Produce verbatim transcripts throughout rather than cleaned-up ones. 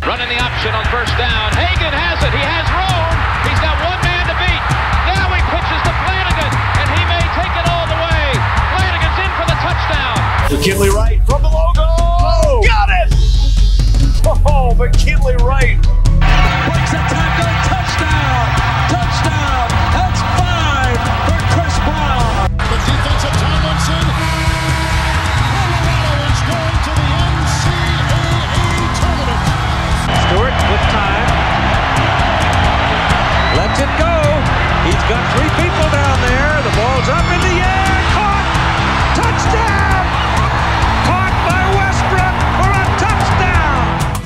Running the option on first down. Hagan has it. He has room. He's got one man to beat. Now he pitches to Flanagan, and he may take it all the way. Flanagan's in for the touchdown. McKinley Wright from the logo. Oh, got it! Oh, McKinley Wright. Breaks a tackle. Touchdown. Touchdown. That's five for Chris Brown. The defense of Tomlinson. Colorado is going to the N C double A tournament. Stewart with time. Lets it go. He's got three people down there. The ball's up in the air. Caught. Touchdown. Caught by Westbrook for a touchdown.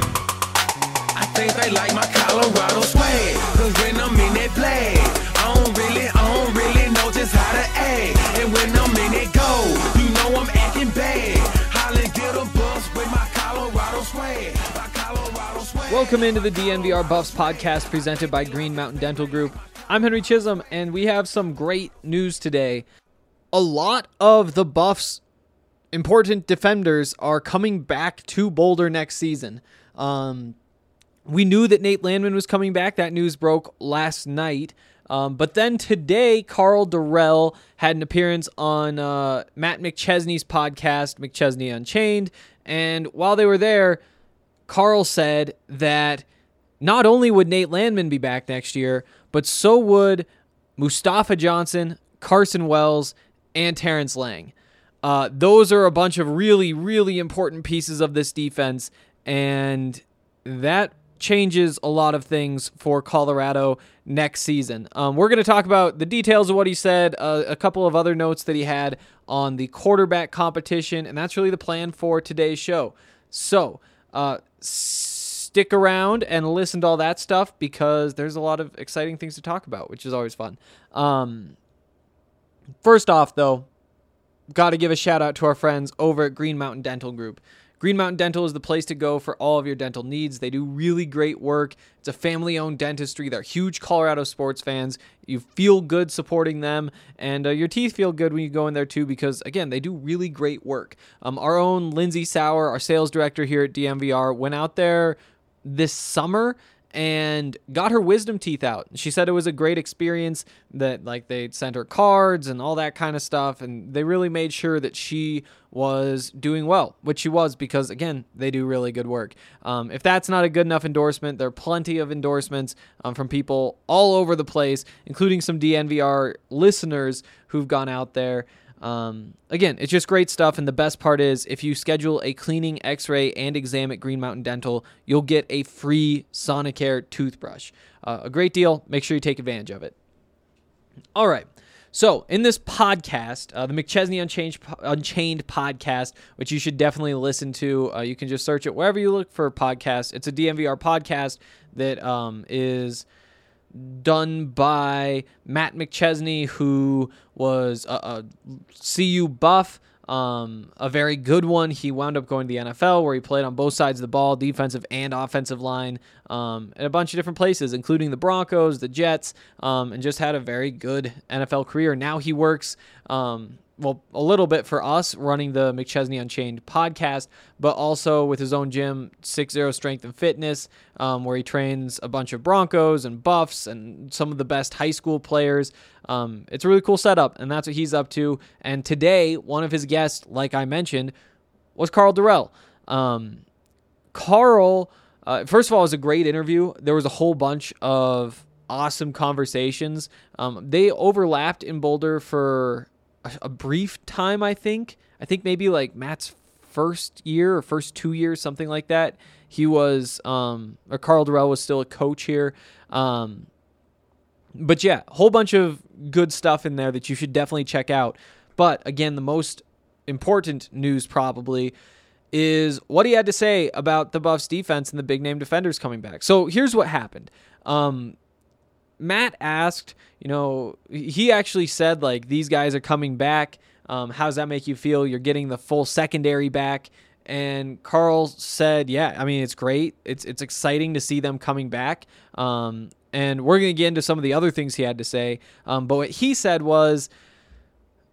I think they like my Colorado swag. Cause when I'm in that play, I don't really, I don't really know just how to act. And when I'm in it go, you know I'm acting bad. Holland get a bus with my Colorado swag. My Colorado swag. Welcome into the D N V R Buffs podcast presented by Green Mountain Dental Group. I'm Henry Chisholm, and we have some great news today. A lot of the Buffs' important defenders are coming back to Boulder next season. Um, we knew that Nate Landman was coming back. That news broke last night. Um, but then today, Karl Dorrell had an appearance on uh, Matt McChesney's podcast, McChesney Unchained. And while they were there, Karl said that not only would Nate Landman be back next year, but so would Mustafa Johnson, Carson Wells, and Terrence Lang. Uh, those are a bunch of really, really important pieces of this defense, and that changes a lot of things for Colorado next season. Um, we're going to talk about the details of what he said, uh, a couple of other notes that he had on the quarterback competition, and that's really the plan for today's show. So, uh, stick around and listen to all that stuff because there's a lot of exciting things to talk about, which is always fun. Um, first off, though, got to give a shout out to our friends over at Green Mountain Dental Group. Green Mountain Dental is the place to go for all of your dental needs. They do really great work. It's a family-owned dentistry. They're huge Colorado sports fans. You feel good supporting them, and uh, your teeth feel good when you go in there too because, again, they do really great work. Um, our own Lindsay Sauer, our sales director here at D M V R, went out there this summer and got her wisdom teeth out. She said it was a great experience, that like they sent her cards and all that kind of stuff, and they really made sure that she was doing well, which she was because, again, they do really good work. Um, if that's not a good enough endorsement, there are plenty of endorsements um, from people all over the place, including some D N V R listeners who've gone out there. Um, again, it's just great stuff, and the best part is if you schedule a cleaning, x-ray, and exam at Green Mountain Dental, you'll get a free Sonicare toothbrush. Uh, a great deal. Make sure you take advantage of it. All right. So, in this podcast, uh, the McChesney Unchained, Unchained podcast, which you should definitely listen to, uh, you can just search it wherever you look for podcasts. It's a D M V R podcast that um, is done by Matt McChesney, who was a, a C U buff, um, a very good one. He wound up going to the N F L, where he played on both sides of the ball, defensive and offensive line, um, in a bunch of different places, including the Broncos, the Jets, um, and just had a very good N F L career. Now he works um, well, a little bit for us running the McChesney Unchained podcast, but also with his own gym, six zero Strength and Fitness, um, where he trains a bunch of Broncos and Buffs and some of the best high school players. Um, it's a really cool setup, and that's what he's up to. And today, one of his guests, like I mentioned, was Karl Dorrell. Um, Karl, uh, first of all, it was a great interview. There was a whole bunch of awesome conversations. Um, they overlapped in Boulder for a brief time, I think. I think maybe like Matt's first year or first two years, something like that. He was, um, or Karl Dorrell was still a coach here. Um, but yeah, a whole bunch of good stuff in there that you should definitely check out. But again, the most important news probably is what he had to say about the Buffs defense and the big name defenders coming back. So here's what happened. Um, Matt asked, you know, he actually said, like, these guys are coming back. Um, how does that make you feel? You're getting the full secondary back. And Karl said, yeah, I mean, it's great. It's it's exciting to see them coming back. Um, and we're going to get into some of the other things he had to say. Um, but what he said was,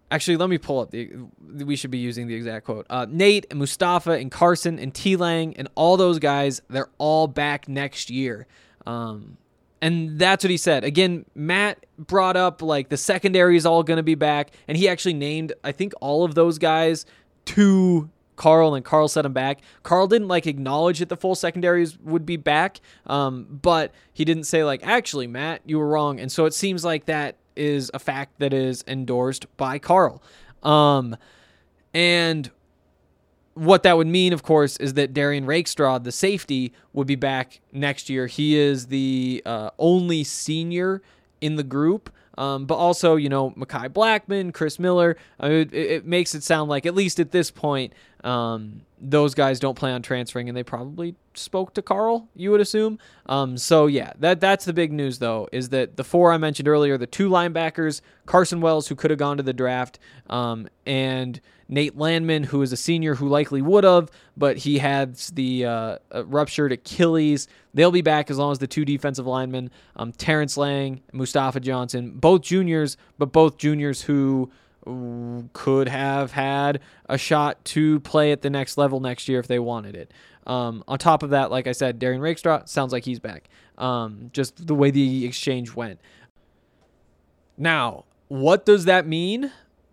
Actually, let me pull up the. We should be using the exact quote. Uh, Nate and Mustafa and Carson and T-Lang and all those guys, they're all back next year. Um, and that's what he said. Again, Matt brought up like the secondary is all going to be back, and he actually named, I think, all of those guys to Carl, and Carl set him back. Carl didn't like acknowledge that the full secondaries would be back, um, but he didn't say like, actually, Matt, you were wrong. And so it seems like that is a fact that is endorsed by Carl. Um, and what that would mean, of course, is that Darian Rakestraw, the safety, would be back next year. He is the uh, only senior in the group. Um, but also, you know, Mekhi Blackman, Chris Miller, I mean, it, it makes it sound like, at least at this point, um, those guys don't plan on transferring, and they probably spoke to Carl, you would assume. Um, so, yeah, that that's the big news, though, is that the four I mentioned earlier, the two linebackers, Carson Wells, who could have gone to the draft, um, and Nate Landman, who is a senior who likely would have, but he had the uh, ruptured Achilles. They'll be back as long as the two defensive linemen, um, Terrence Lang, Mustafa Johnson, both juniors, but both juniors who could have had a shot to play at the next level next year if they wanted it. Um, on top of that, like I said, Darian Rakestraw sounds like he's back. Um, just the way the exchange went. Now, what does that mean?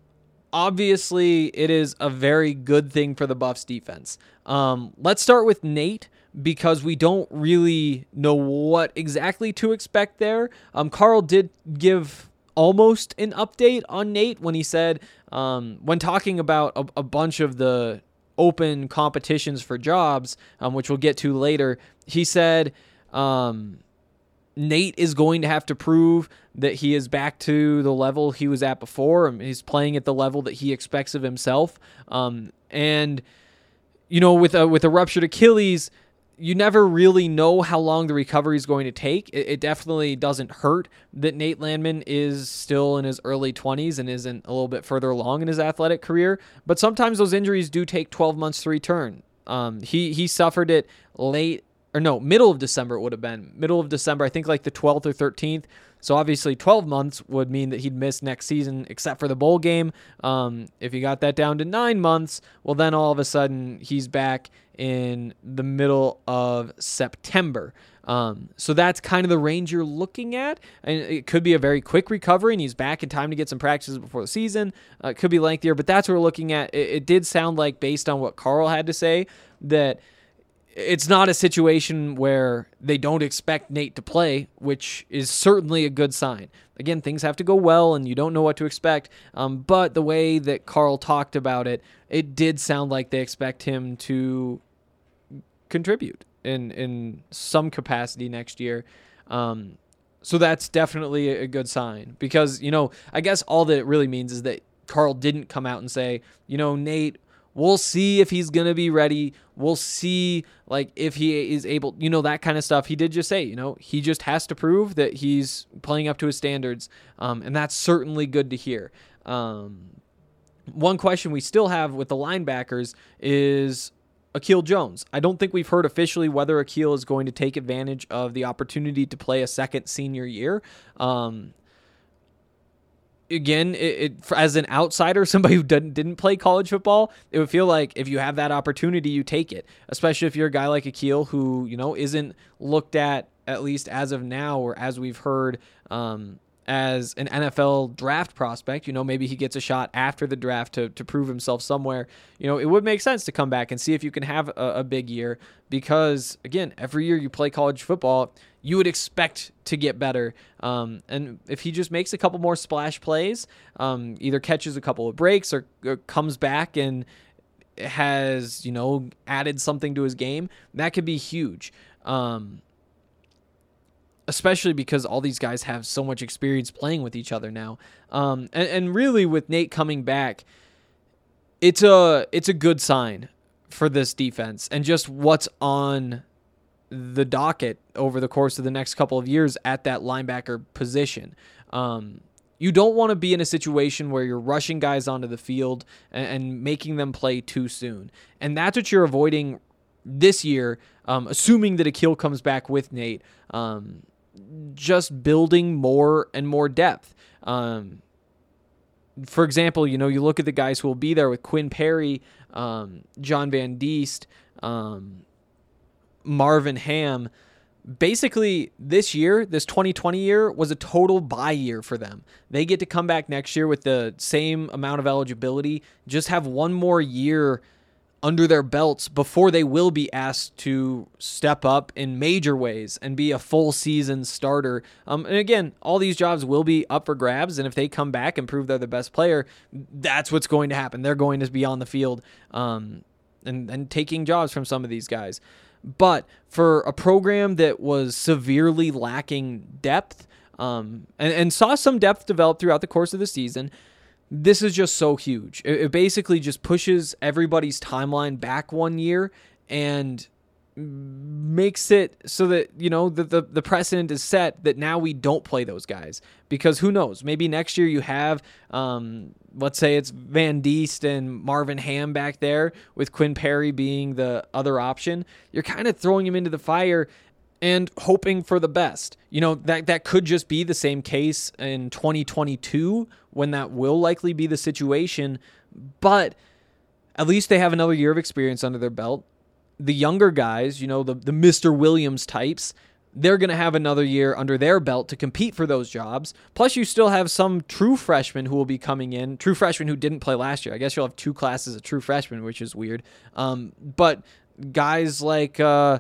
Obviously, it is a very good thing for the Buffs defense. Um, let's start with Nate, because we don't really know what exactly to expect there. Um, Carl did give almost an update on Nate when he said, um, when talking about a, a bunch of the open competitions for jobs, um, which we'll get to later, he said, um, Nate is going to have to prove that he is back to the level he was at before. And he's playing at the level that he expects of himself. Um, and, you know, with a, with a ruptured Achilles, you never really know how long the recovery is going to take. It, it definitely doesn't hurt that Nate Landman is still in his early twenties and isn't a little bit further along in his athletic career. But sometimes those injuries do take twelve months to return. Um, he, he suffered it late, or no, middle of December it would have been. Middle of December, I think like the twelfth or thirteenth. So obviously twelve months would mean that he'd miss next season except for the bowl game. Um, if you got that down to nine months, well then all of a sudden he's back in the middle of September. Um, so that's kind of the range you're looking at. And it could be a very quick recovery and he's back in time to get some practices before the season. Uh, it could be lengthier, but that's what we're looking at. It, it did sound like, based on what Carl had to say, that it's not a situation where they don't expect Nate to play, which is certainly a good sign. Again, things have to go well and you don't know what to expect. Um, but the way that Carl talked about it, it did sound like they expect him to contribute in, in some capacity next year. Um, so that's definitely a good sign, because, you know, I guess all that it really means is that Carl didn't come out and say, you know, Nate, we'll see if he's going to be ready. We'll see, like, if he is able, you know, that kind of stuff. He did just say, you know, he just has to prove that he's playing up to his standards. Um, and that's certainly good to hear. Um, one question we still have with the linebackers is Akil Jones. I don't think we've heard officially whether Akil is going to take advantage of the opportunity to play a second senior year. Um, Again, it, it, as an outsider, somebody who didn't, didn't play college football, it would feel like if you have that opportunity, you take it, especially if you're a guy like Akil who, you know, isn't looked at, at least as of now, or as we've heard, um, as an N F L draft prospect. You know, maybe he gets a shot after the draft to, to prove himself somewhere. You know, it would make sense to come back and see if you can have a, a big year, because, again, every year you play college football, you would expect to get better. Um, and if he just makes a couple more splash plays, um, either catches a couple of breaks or, or comes back and has, you know, added something to his game, that could be huge. Um, especially because all these guys have so much experience playing with each other now. Um, and, and really with Nate coming back, it's a, it's a good sign for this defense and just what's on the docket over the course of the next couple of years at that linebacker position. Um, you don't want to be in a situation where you're rushing guys onto the field and, and making them play too soon. And that's what you're avoiding this year, um, assuming that Akil comes back with Nate, um, just building more and more depth. Um, for example, you know, you look at the guys who will be there with Quinn Perry, um, John Van Diest, um, Marvin Ham. Basically, this year, this twenty twenty year, was a total bye year for them. They get to come back next year with the same amount of eligibility, just have one more year under their belts before they will be asked to step up in major ways and be a full season starter. Um, and again, all these jobs will be up for grabs, and if they come back and prove they're the best player, that's what's going to happen. They're going to be on the field um, and, and taking jobs from some of these guys. But for a program that was severely lacking depth um, and, and saw some depth develop throughout the course of the season, this is just so huge. It, it basically just pushes everybody's timeline back one year and makes it so that, you know, the, the, the precedent is set that now we don't play those guys. Because who knows, maybe next year you have, um, let's say it's Van Diest and Marvin Ham back there with Quinn Perry being the other option. You're kind of throwing him into the fire and hoping for the best. You know, that, that could just be the same case in twenty twenty-two when that will likely be the situation. But at least they have another year of experience under their belt. The younger guys, you know, the, the Mister Williams types, they're going to have another year under their belt to compete for those jobs. Plus, you still have some true freshmen who will be coming in, true freshmen who didn't play last year. I guess you'll have two classes of true freshmen, which is weird. Um, but guys like uh,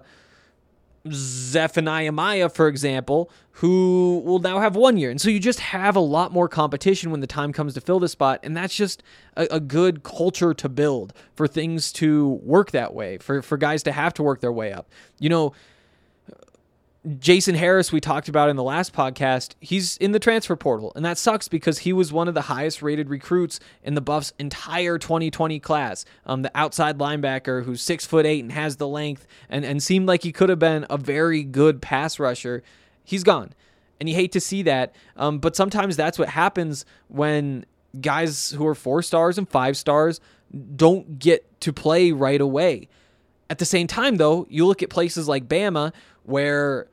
Zephaniah Maya, for example, who will now have one year. And so you just have a lot more competition when the time comes to fill the spot. And that's just a, a good culture to build for things to work that way, for, for guys to have to work their way up. You know, Jason Harris, we talked about in the last podcast, he's in the transfer portal, and that sucks because he was one of the highest rated recruits in the Buffs' entire twenty twenty class. Um, the outside linebacker who's six foot eight and has the length and, and seemed like he could have been a very good pass rusher. He's gone, and you hate to see that. Um, but sometimes that's what happens when guys who are four stars and five stars don't get to play right away. At the same time, though, you look at places like Bama where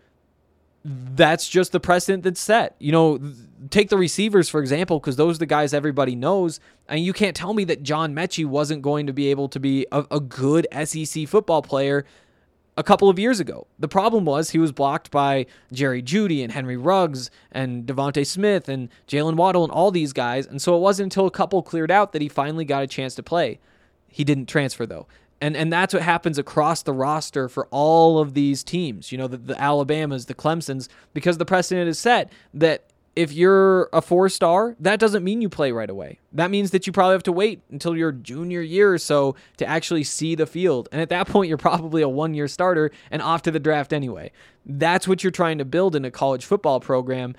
that's just the precedent that's set. You know, take the receivers, for example, because those are the guys everybody knows. And you can't tell me that John Mechie wasn't going to be able to be a, a good S E C football player a couple of years ago. The problem was he was blocked by Jerry Jeudy and Henry Ruggs and Devontae Smith and Jalen Waddle and all these guys. And so it wasn't until a couple cleared out that he finally got a chance to play. He didn't transfer, though. And and that's what happens across the roster for all of these teams, you know, the, the Alabamas, the Clemsons, because the precedent is set that if you're a four-star, that doesn't mean you play right away. That means that you probably have to wait until your junior year or so to actually see the field. And at that point, you're probably a one-year starter and off to the draft anyway. That's what you're trying to build in a college football program.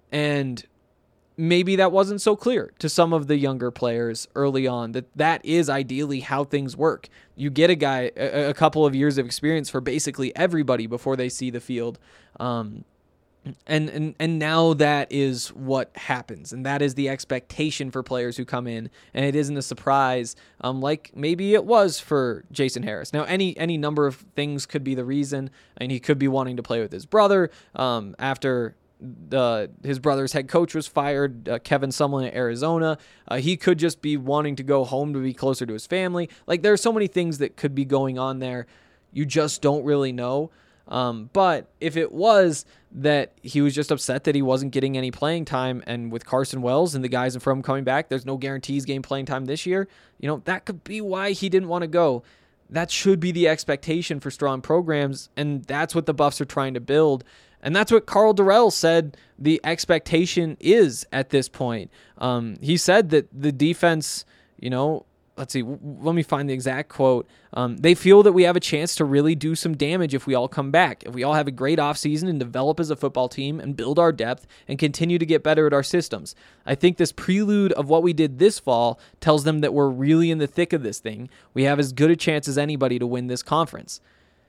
And maybe that wasn't so clear to some of the younger players early on, that that is ideally how things work. You get a guy, a, a couple of years of experience for basically everybody before they see the field. Um, and, and, and now that is what happens. And that is the expectation for players who come in, and it isn't a surprise. Um, like maybe it was for Jason Harris. Now, any, any number of things could be the reason. I mean, he could be wanting to play with his brother, um, after, Uh, his brother's head coach was fired, uh, Kevin Sumlin at Arizona. Uh, he could just be wanting to go home to be closer to his family. Like, there are so many things that could be going on there. You just don't really know. Um, but if it was that he was just upset that he wasn't getting any playing time, and with Carson Wells and the guys in front of him coming back, there's no guarantees game playing time this year, you know, that could be why he didn't want to go. That should be the expectation for strong programs, and that's what the Buffs are trying to build. And that's what Karl Dorrell said the expectation is at this point. Um, he said that the defense, you know, let's see, w- let me find the exact quote. Um, they feel that we have a chance to really do some damage if we all come back, if we all have a great offseason and develop as a football team and build our depth and continue to get better at our systems. I think this prelude of what we did this fall tells them that we're really in the thick of this thing. We have as good a chance as anybody to win this conference.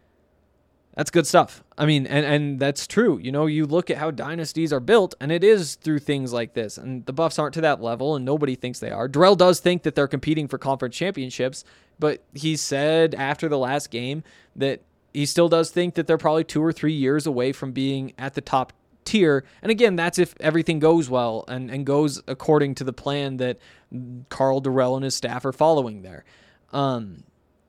That's good stuff. I mean, and, and that's true. You know, you look at how dynasties are built, and it is through things like this. And the Buffs aren't to that level, and nobody thinks they are. Dorrell does think that they're competing for conference championships, but he said after the last game that he still does think that they're probably two or three years away from being at the top tier. And again, that's if everything goes well and, and goes according to the plan that Karl Dorrell and his staff are following there. Um,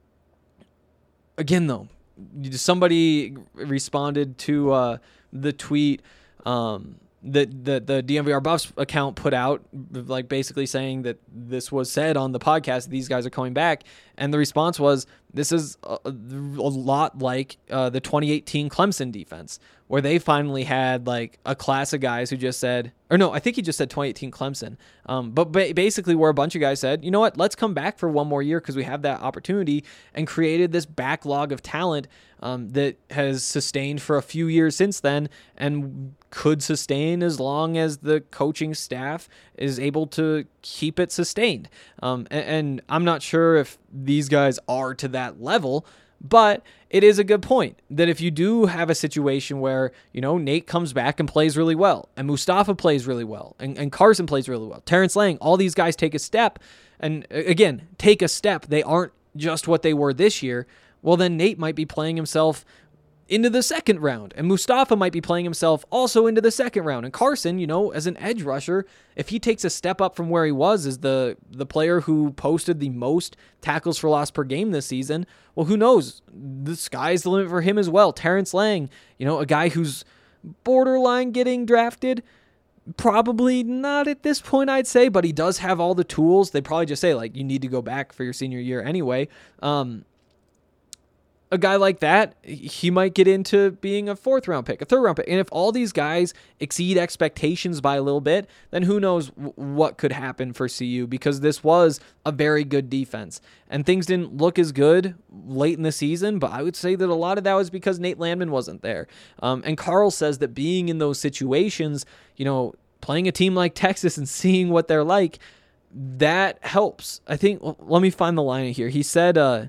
again, though, somebody responded to uh, the tweet um, that the, the D N V R Buffs account put out, like basically saying that this was said on the podcast, these guys are coming back. And the response was, this is a, a lot like uh, the twenty eighteen Clemson defense, where they finally had like a class of guys who just said, or no, I think he just said twenty eighteen Clemson. Um, but ba- basically where a bunch of guys said, you know what, let's come back for one more year because we have that opportunity, and created this backlog of talent um, that has sustained for a few years since then and could sustain as long as the coaching staff is able to keep it sustained. Um, and, and I'm not sure if these guys are to that level, but it is a good point that if you do have a situation where, you know, Nate comes back and plays really well, and Mustafa plays really well, and, and Carson plays really well, Terrence Lang, all these guys take a step, and again, take a step. They aren't just what they were this year. Well, then Nate might be playing himself into the second round, and Mustafa might be playing himself also into the second round. And Carson, you know, as an edge rusher, if he takes a step up from where he was as the the player who posted the most tackles for loss per game this season, well, who knows? The sky's the limit for him as well. Terrence Lang, you know, a guy who's borderline getting drafted, probably not at this point, I'd say, but he does have all the tools. They'd probably just say, like, you need to go back for your senior year anyway. Um, A guy like that, he might get into being a fourth round pick, a third round pick. And if all these guys exceed expectations by a little bit, then who knows w- what could happen for C U, because this was a very good defense. And things didn't look as good late in the season, but I would say that a lot of that was because Nate Landman wasn't there. Um, and Karl says that being in those situations, you know, playing a team like Texas and seeing what they're like, that helps. I think, well, let me find the line here. He said, uh,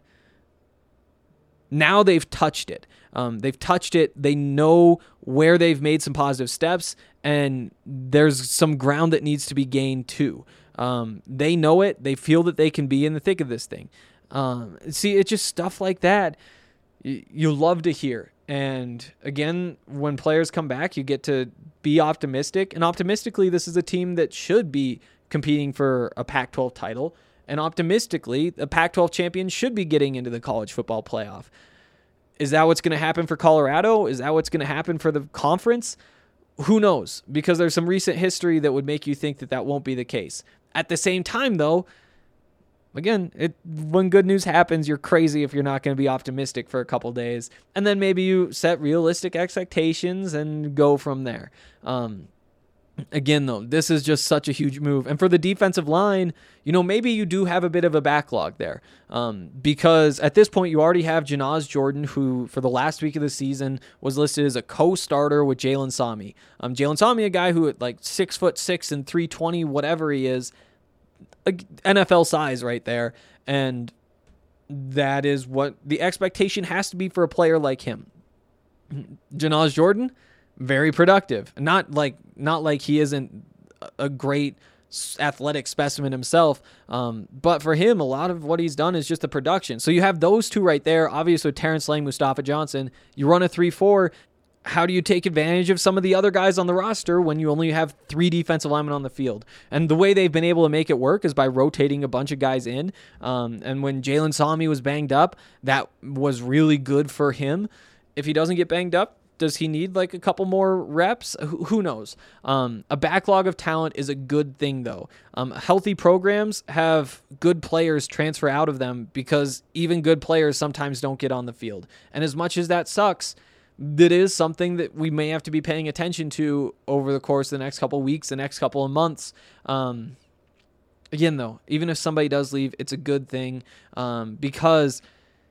now they've touched it. Um, they've touched it. They know where they've made some positive steps, and there's some ground that needs to be gained too. Um, they know it. They feel that they can be in the thick of this thing. Um, see, it's just stuff like that you, you love to hear. And again, when players come back, you get to be optimistic. And optimistically, this is a team that should be competing for a Pac twelve title. And optimistically, the Pac twelve champion should be getting into the college football playoff. Is that what's going to happen for Colorado? Is that what's going to happen for the conference? Who knows? Because there's some recent history that would make you think that that won't be the case. At the same time, though, again, it, when good news happens, you're crazy if you're not going to be optimistic for a couple days. And then maybe you set realistic expectations and go from there. Um, Again, though, this is just such a huge move. And for the defensive line, you know, maybe you do have a bit of a backlog there. Um, because at this point, you already have Janaz Jordan, who for the last week of the season was listed as a co-starter with Jalen Sami. Um, Jalen Sami, a guy who at like six foot six and three twenty, whatever he is, N F L size right there. And that is what the expectation has to be for a player like him. Janaz Jordan, very productive. Not like not like he isn't a great athletic specimen himself, um, but for him, a lot of what he's done is just the production. So you have those two right there. Obviously, Terrence Lang, Mustafa Johnson. You run a three four. How do you take advantage of some of the other guys on the roster when you only have three defensive linemen on the field? And the way they've been able to make it work is by rotating a bunch of guys in. Um, and when Jalen Sami was banged up, that was really good for him. If he doesn't get banged up, does he need like a couple more reps? Who, who knows? Um, a backlog of talent is a good thing, though. Um, healthy programs have good players transfer out of them because even good players sometimes don't get on the field. And as much as that sucks, that is something that we may have to be paying attention to over the course of the next couple of weeks, the next couple of months. Um, again, though, even if somebody does leave, it's a good thing um, because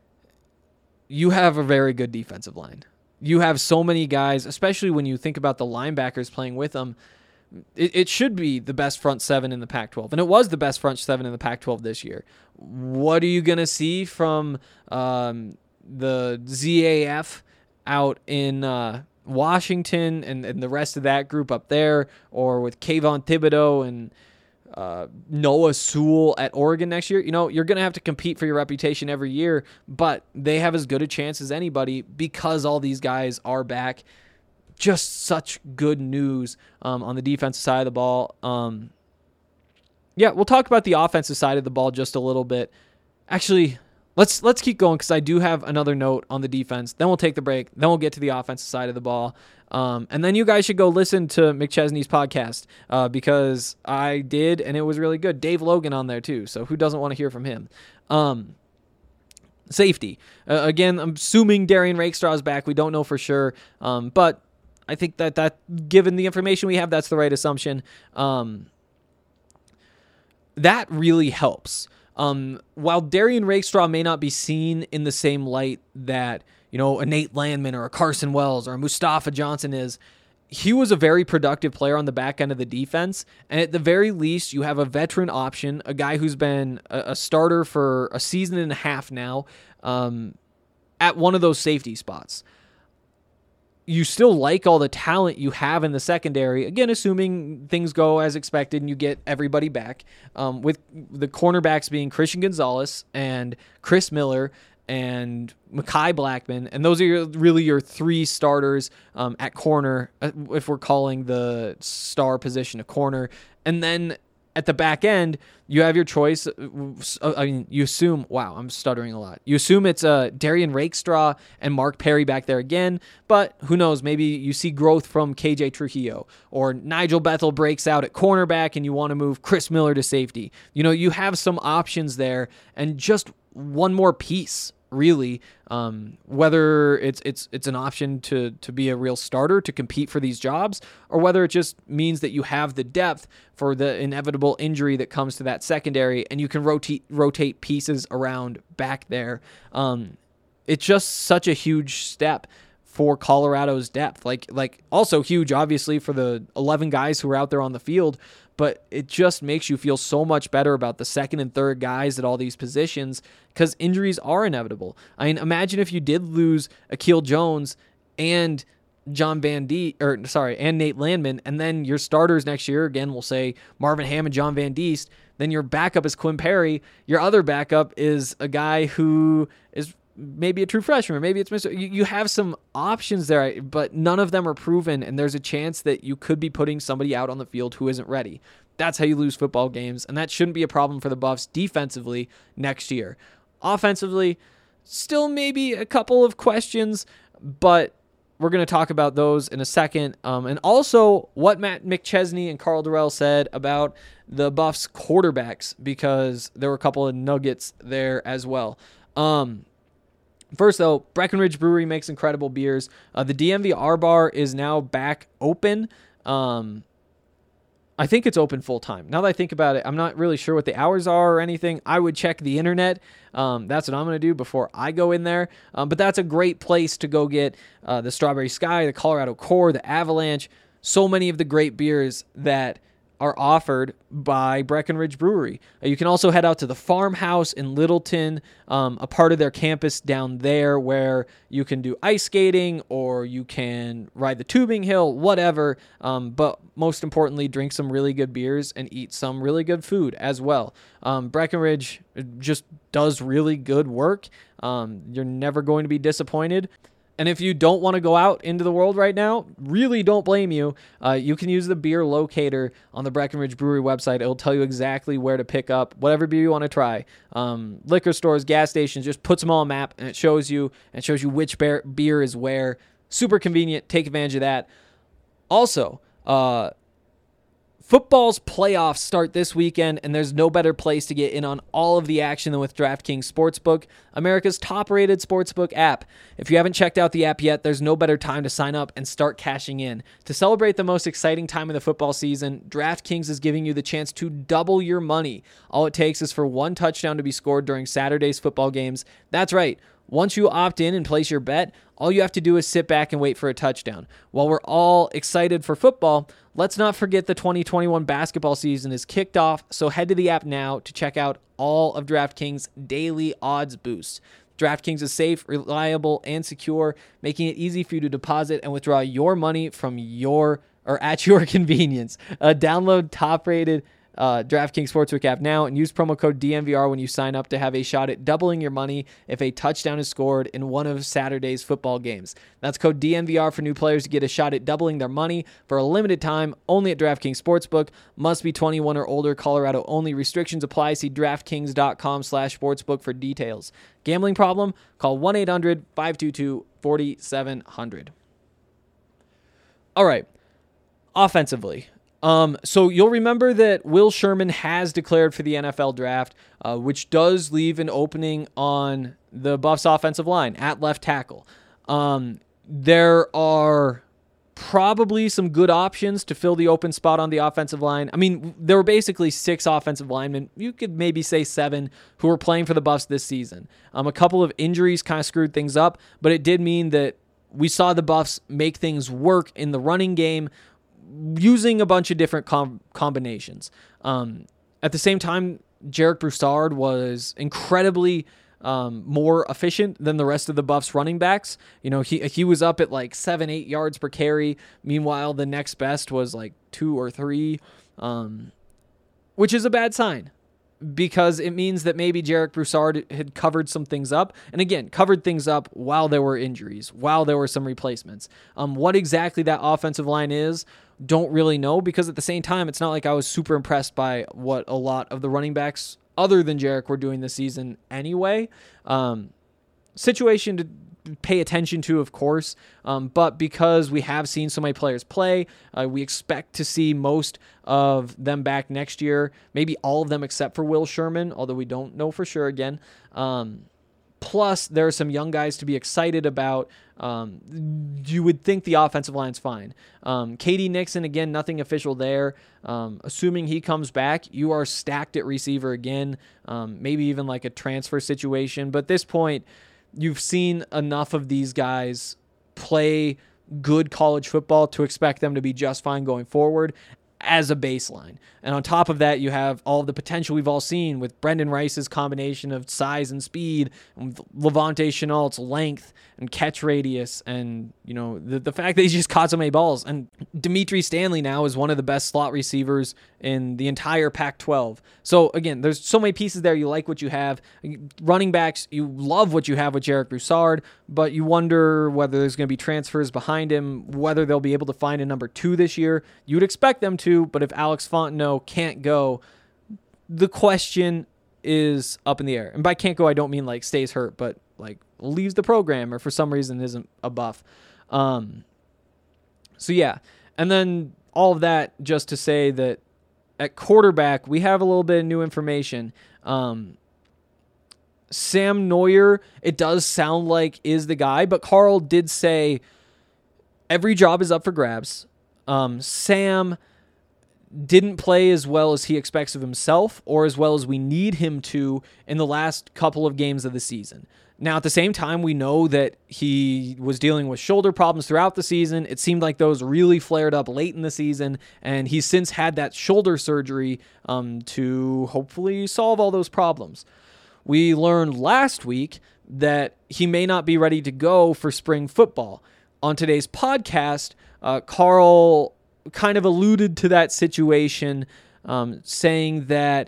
you have a very good defensive line. You have so many guys, especially when you think about the linebackers playing with them. It, it should be the best front seven in the Pac twelve, and it was the best front seven in the Pac twelve this year. What are you going to see from um, the Z A F out in uh, Washington and, and the rest of that group up there, or with Kayvon Thibodeau and uh, Noah Sewell at Oregon next year? You know, you're going to have to compete for your reputation every year, but they have as good a chance as anybody because all these guys are back. just such good news um, on the defensive side of the ball. Um, yeah, we'll talk about the offensive side of the ball just a little bit. Actually, let's let's keep going because I do have another note on the defense. Then we'll take the break. Then we'll get to the offensive side of the ball. Um, and then you guys should go listen to McChesney's podcast uh, because I did, and it was really good. Dave Logan on there too, so who doesn't want to hear from him? Um, safety. Uh, again, I'm assuming Darian Rakestraw is back. We don't know for sure, um, but I think that, that given the information we have, that's the right assumption. Um, that really helps. Um, while Darian Rakestraw may not be seen in the same light that, you know, a Nate Landman or a Carson Wells or a Mustafa Johnson is, he was a very productive player on the back end of the defense. And at the very least, you have a veteran option, a guy who's been a, a starter for a season and a half now, um, at one of those safety spots. You still like all the talent you have in the secondary, again, assuming things go as expected and you get everybody back, um, with the cornerbacks being Christian Gonzalez and Chris Miller and Mekhi Blackman. And those are your, really your three starters um, at corner, if we're calling the star position a corner. And then at the back end, you have your choice. I mean, you assume, wow, I'm stuttering a lot. You assume it's uh, Darian Rakestraw and Mark Perry back there again, but who knows? Maybe you see growth from K J Trujillo, or Nigel Bethel breaks out at cornerback and you want to move Chris Miller to safety. You know, you have some options there, and just one more piece, really, um, whether it's it's it's an option to to be a real starter to compete for these jobs, or whether it just means that you have the depth for the inevitable injury that comes to that secondary, and you can rotate rotate pieces around back there. Um, it's just such a huge step for Colorado's depth. Like like also huge, obviously, for the eleven guys who are out there on the field. But it just makes you feel so much better about the second and third guys at all these positions because injuries are inevitable. I mean, imagine if you did lose Akil Jones and John Van Diest, or sorry, and Nate Landman, and then your starters next year, again, we'll say Marvin Ham and John Van Diest, then your backup is Quinn Perry. Your other backup is a guy who is maybe a true freshman, or maybe it's Mister You, you have some options there, but none of them are proven, and there's a chance that you could be putting somebody out on the field who isn't ready. That's how you lose football games, and that shouldn't be a problem for the Buffs defensively next year. Offensively, still maybe a couple of questions, but we're going to talk about those in a second. Um, and also what Matt McChesney and Carl Durrell said about the Buffs quarterbacks, because there were a couple of nuggets there as well. Um, First, though, Breckenridge Brewery makes incredible beers. Uh, the D M V R Bar is now back open. Um, I think it's open full-time. Now that I think about it, I'm not really sure what the hours are or anything. I would check the internet. Um, that's what I'm going to do before I go in there. Um, but that's a great place to go get uh, the Strawberry Sky, the Colorado Core, the Avalanche, so many of the great beers that are offered by Breckenridge Brewery. Uh, you can also head out to the Farmhouse in Littleton, um, a part of their campus down there where you can do ice skating or you can ride the tubing hill, whatever. Um, but most importantly, drink some really good beers and eat some really good food as well. Um, Breckenridge just does really good work. Um, you're never going to be disappointed. And if you don't want to go out into the world right now, really don't blame you. Uh, you can use the beer locator on the Breckenridge Brewery website. It'll tell you exactly where to pick up whatever beer you want to try. Um, liquor stores, gas stations, just puts them on a map and it shows you and shows you which beer, beer is where. Super convenient. Take advantage of that. Also, uh, football's playoffs start this weekend, and there's no better place to get in on all of the action than with DraftKings Sportsbook, America's top-rated sportsbook app. If you haven't checked out the app yet, there's no better time to sign up and start cashing in. To celebrate the most exciting time of the football season, DraftKings is giving you the chance to double your money. All it takes is for one touchdown to be scored during Saturday's football games. That's right. Once you opt in and place your bet, all you have to do is sit back and wait for a touchdown. While we're all excited for football, let's not forget the twenty twenty-one basketball season is kicked off, so head to the app now to check out all of DraftKings' daily odds boosts. DraftKings is safe, reliable, and secure, making it easy for you to deposit and withdraw your money from your or at your convenience. Uh, download top-rated uh, DraftKings Sportsbook app now and use promo code D N V R when you sign up to have a shot at doubling your money if a touchdown is scored in one of Saturday's football games. That's code D N V R for new players to get a shot at doubling their money for a limited time only at DraftKings Sportsbook. Must be twenty-one or older. Colorado only. Restrictions apply. See DraftKings.com slash sportsbook for details. Gambling problem? Call one eight hundred five two two four seven zero zero. All right. Offensively. Um, so you'll remember that Will Sherman has declared for the N F L draft, uh, which does leave an opening on the Buffs offensive line at left tackle. Um, there are probably some good options to fill the open spot on the offensive line. I mean, there were basically six offensive linemen. You could maybe say seven who were playing for the Buffs this season. Um, a couple of injuries kind of screwed things up, but it did mean that we saw the Buffs make things work in the running game using a bunch of different com- combinations. Um, at the same time, Jarek Broussard was incredibly um, more efficient than the rest of the Buffs running backs. You know, he he was up at like seven, eight yards per carry. Meanwhile, the next best was like two or three, um, which is a bad sign, because it means that maybe Jarek Broussard had covered some things up. And again, covered things up while there were injuries, while there were some replacements. Um, what exactly that offensive line is, don't really know, because at the same time, it's not like I was super impressed by what a lot of the running backs other than Jarek were doing this season anyway. Um, situation to pay attention to, of course, um, but because we have seen so many players play, uh, we expect to see most of them back next year, maybe all of them except for Will Sherman, although we don't know for sure again. Um, plus, there are some young guys to be excited about. Um, you would think the offensive line's fine. Um, K D Nixon, again, nothing official there. Um, assuming he comes back, you are stacked at receiver again, um, maybe even like a transfer situation. But at this point, you've seen enough of these guys play good college football to expect them to be just fine going forward as a baseline. And on top of that, you have all of the potential we've all seen with Brendan Rice's combination of size and speed, and Levante Chenault's length and catch radius, and you know the, the fact that he's just caught so many balls. And Dimitri Stanley now is one of the best slot receivers in the entire Pac twelve. So again, there's so many pieces there. You like what you have. Running backs, you love what you have with Jarek Broussard, but you wonder whether there's going to be transfers behind him, whether they'll be able to find a number two this year. You'd expect them to, but if Alex Fontenot can't go, the question is up in the air. And by can't go, I don't mean like stays hurt, but like leaves the program or for some reason isn't a Buff. Um, so yeah. And then all of that just to say that at quarterback, we have a little bit of new information. Um, Sam Neuer, it does sound like is the guy, but Carl did say every job is up for grabs. Um, Sam didn't play as well as he expects of himself or as well as we need him to in the last couple of games of the season. Now, at the same time, we know that he was dealing with shoulder problems throughout the season. It seemed like those really flared up late in the season, and he's since had that shoulder surgery um, to hopefully solve all those problems. We learned last week that he may not be ready to go for spring football. On today's podcast, uh, Carl kind of alluded to that situation, um, saying that,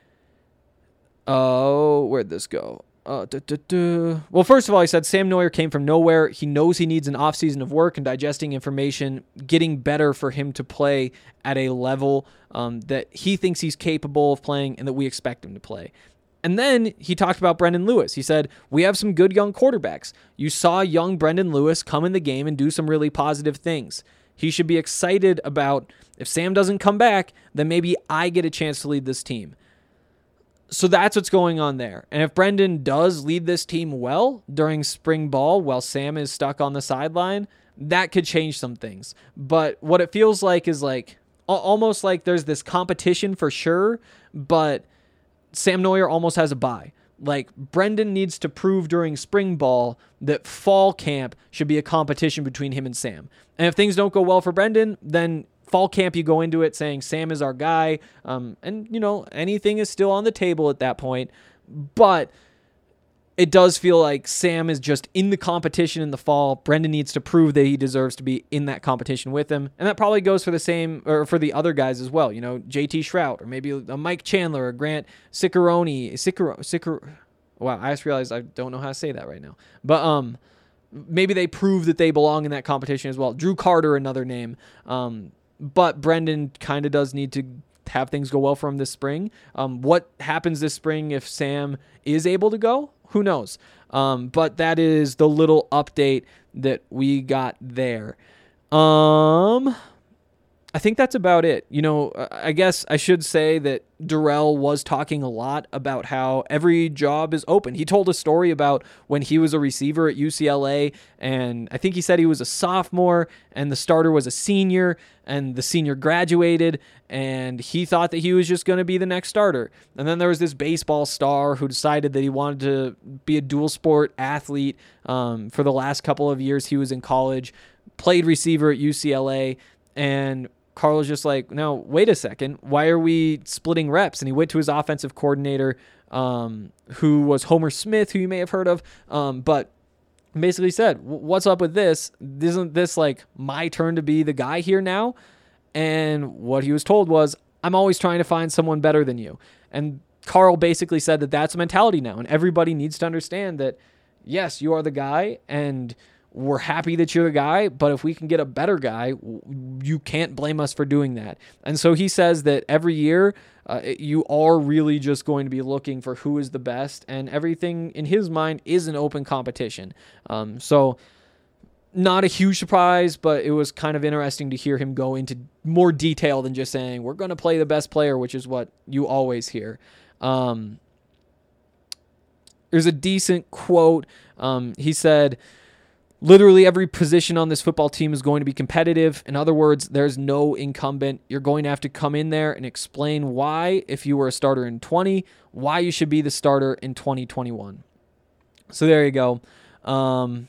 oh, where'd this go? Uh, duh, duh, duh. Well, first of all, he said Sam Neuer came from nowhere. He knows he needs an offseason of work and digesting information, getting better for him to play at a level um, that he thinks he's capable of playing and that we expect him to play. And then he talked about Brendan Lewis. He said, we have some good young quarterbacks. You saw young Brendan Lewis come in the game and do some really positive things. He should be excited about, if Sam doesn't come back, then maybe I get a chance to lead this team. So that's what's going on there. And if Brendan does lead this team well during spring ball while Sam is stuck on the sideline, that could change some things. But what it feels like is like almost like there's this competition for sure, but Sam Neuer almost has a bye. Like, Brendan needs to prove during spring ball that fall camp should be a competition between him and Sam. And if things don't go well for Brendan, then fall camp, you go into it saying Sam is our guy. Um, and, you know, anything is still on the table at that point. But it does feel like Sam is just in the competition in the fall. Brendan needs to prove that he deserves to be in that competition with him. And that probably goes for the same, or for the other guys as well. You know, J T Shrout, or maybe a Mike Chandler, or Grant Ciccarone. Ciccar- Ciccar- wow, I just realized I don't know how to say that right now. But um, maybe they prove that they belong in that competition as well. Drew Carter, another name. Um, but Brendan kind of does need to have things go well for him this spring. Um, what happens this spring if Sam is able to go? Who knows? Um, but that is the little update that we got there. Um, I think that's about it. You know, I guess I should say that Dorrell was talking a lot about how every job is open. He told a story about when he was a receiver at U C L A, and I think he said he was a sophomore, and the starter was a senior, and the senior graduated, and he thought that he was just going to be the next starter. And then there was this baseball star who decided that he wanted to be a dual sport athlete. Um, for the last couple of years he was in college, played receiver at U C L A, and Carl was just like, no, wait a second. Why are we splitting reps? And he went to his offensive coordinator, um, who was Homer Smith, who you may have heard of, um, but basically said, what's up with this? Isn't this like my turn to be the guy here now? And what he was told was, I'm always trying to find someone better than you. And Carl basically said that that's a mentality now. And everybody needs to understand that, yes, you are the guy, and we're happy that you're the guy, but if we can get a better guy, you can't blame us for doing that. And so he says that every year uh, you are really just going to be looking for who is the best, and everything in his mind is an open competition. Um, so not a huge surprise, but it was kind of interesting to hear him go into more detail than just saying, we're going to play the best player, which is what you always hear. Um, there's a decent quote. Um, he said, literally every position on this football team is going to be competitive. In other words, there's no incumbent. You're going to have to come in there and explain why, if you were a starter in twenty, why you should be the starter in twenty twenty-one. So there you go. Um,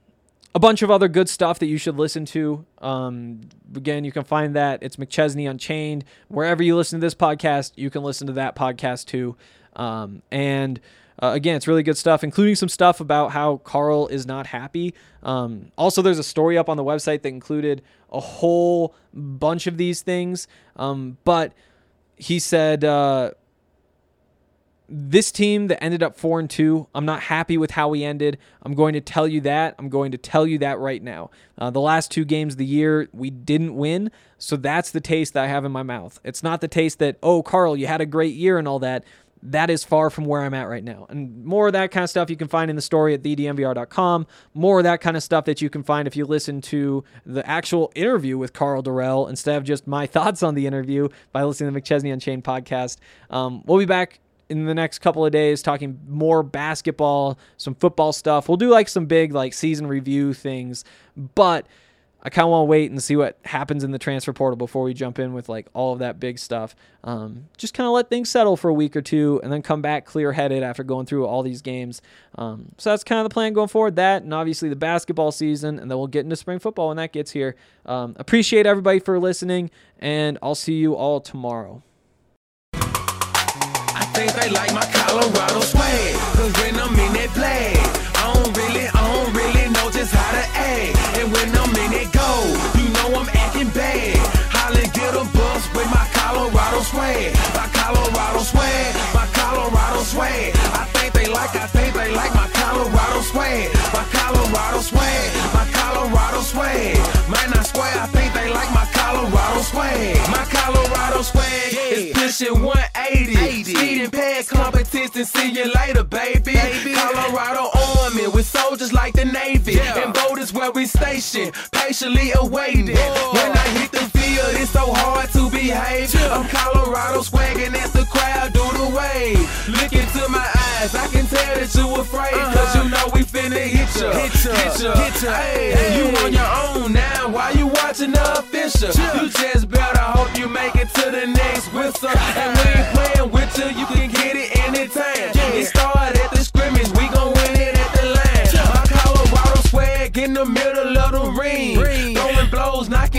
a bunch of other good stuff that you should listen to. Um, again, you can find that. It's McChesney Unchained. Wherever you listen to this podcast, you can listen to that podcast too. Um, and Uh, again, it's really good stuff, including some stuff about how Carl is not happy. Um, also, there's a story up on the website that included a whole bunch of these things. Um, but he said, uh, this team that ended up four and two, I'm not happy with how we ended. I'm going to tell you that. I'm going to tell you that right now. Uh, the last two games of the year, we didn't win. So that's the taste that I have in my mouth. It's not the taste that, oh, Carl, you had a great year and all that. That is far from where I'm at right now. And more of that kind of stuff you can find in the story at the d m v r dot com. More of that kind of stuff that you can find if you listen to the actual interview with Carl Dorrell instead of just my thoughts on the interview by listening to the McChesney Unchained podcast. Um, we'll be back in the next couple of days talking more basketball, some football stuff. We'll do like some big like season review things, but I kind of want to wait and see what happens in the transfer portal before we jump in with like all of that big stuff. Um, just kind of let things settle for a week or two and then come back clear-headed after going through all these games. Um, so that's kind of the plan going forward. That and obviously the basketball season, and then we'll get into spring football when that gets here. Um, appreciate everybody for listening, and I'll see you all tomorrow. I think they like my Colorado swag, cause when I'm in that flag, I don't really, I don't really know just how to act. And when I'm in it go, you know I'm acting bad. Holla, get a bus with my Colorado swag, my Colorado swag, my Colorado swag. I think they like, I think they like my Colorado swag, my Colorado swag, my Colorado swag. Man, I swear, I think they like my Colorado swag, my Colorado swag. It's pushing one eighty, speeding past competition. See you later, baby. baby. Colorado Army with soldiers like the Navy, yeah. And boat is where we station, patiently awaiting. Whoa. When I hit the field, it's so hard to behave. Yeah. I'm Colorado swagging as the crowd do the wave. Look into my eyes, I can tell that you afraid, uh-huh. Cause you know we finna hit ya, hit ya, hit ya, hit ya. Hey, hey. You on your own now, why you watching the official? Yeah. You just better hope you make it to the next whistle. And we ain't playing with you, you can get it anytime. Yeah. It started at the scrimmage, we gon' win it at the line. Yeah. My Colorado swag in the middle of the ring, ring. Throwing blows, knocking down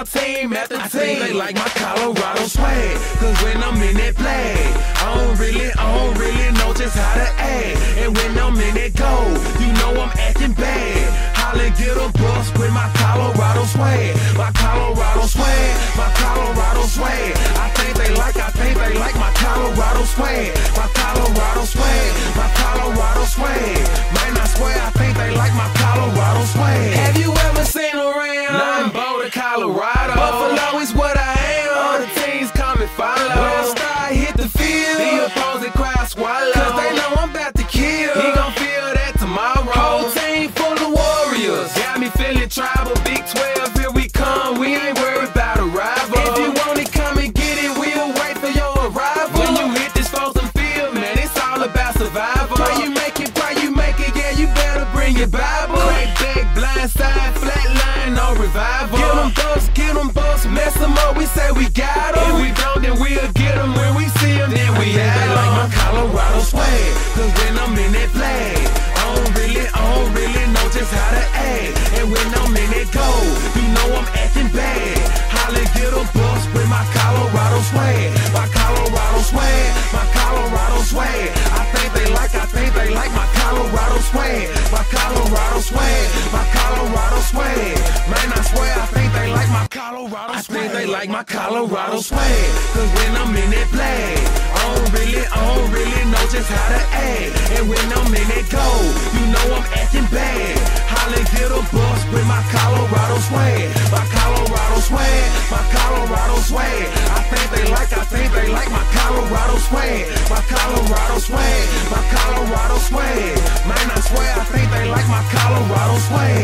team after team. I think they like my Colorado swag, cause when I'm in that play, I don't really, I don't really know just how to act. And when I'm in that goal, you know I'm acting bad. Holla, get a bus with my Colorado swag, my Colorado swag, my Colorado swag. I think they like, I think they like my Colorado swag, my Colorado swag, my Colorado swag. Might not swear, I think they like my Colorado swag. Have you ever seen around? Nothing Boulder, Colorado. Buffalo is what I am. All the teams come and follow. When I start hit the field, the opposing crowd swallow. Cause they know I'm about to kill. He gon' feel that tomorrow. Whole team full of warriors. Got me feeling tribal. Big twelve, here we come. We ain't worried about a rival. If you want it, come and get it. We'll wait for your arrival. When you hit this frozen field, man, it's all about survival. Pray you make it, pray you make it. Yeah, you better bring your Bible. Crack back, blind side, flat line, no revival. Get them ducks, get them bucks, mess them up. We say we got them. If we don't, then we'll get them. When we see them, then we have them. They like my Colorado swag, cause when I'm in that flag, I don't really, I don't really know just how to act. And when I'm in that goal, you know I'm acting bad. Holla, get a bus with my Colorado swag, my Colorado swag, my Colorado swag. I think they like, I think they like my Colorado swag, my Colorado swag, my Colorado swag. Man, I swear, I think they like my Colorado swag. I think they like my Colorado swag, cause when I'm in that flag, I don't really, I don't really know just how to act. And when I'm in that goal, you know I'm acting bad. Holla, get a bus with my Colorado swag, my Colorado swag, my Colorado swag. I think they like, I think they like my Colorado swag, my Colorado swag, my Colorado swag. Man, I swear, I think they like my Colorado swag.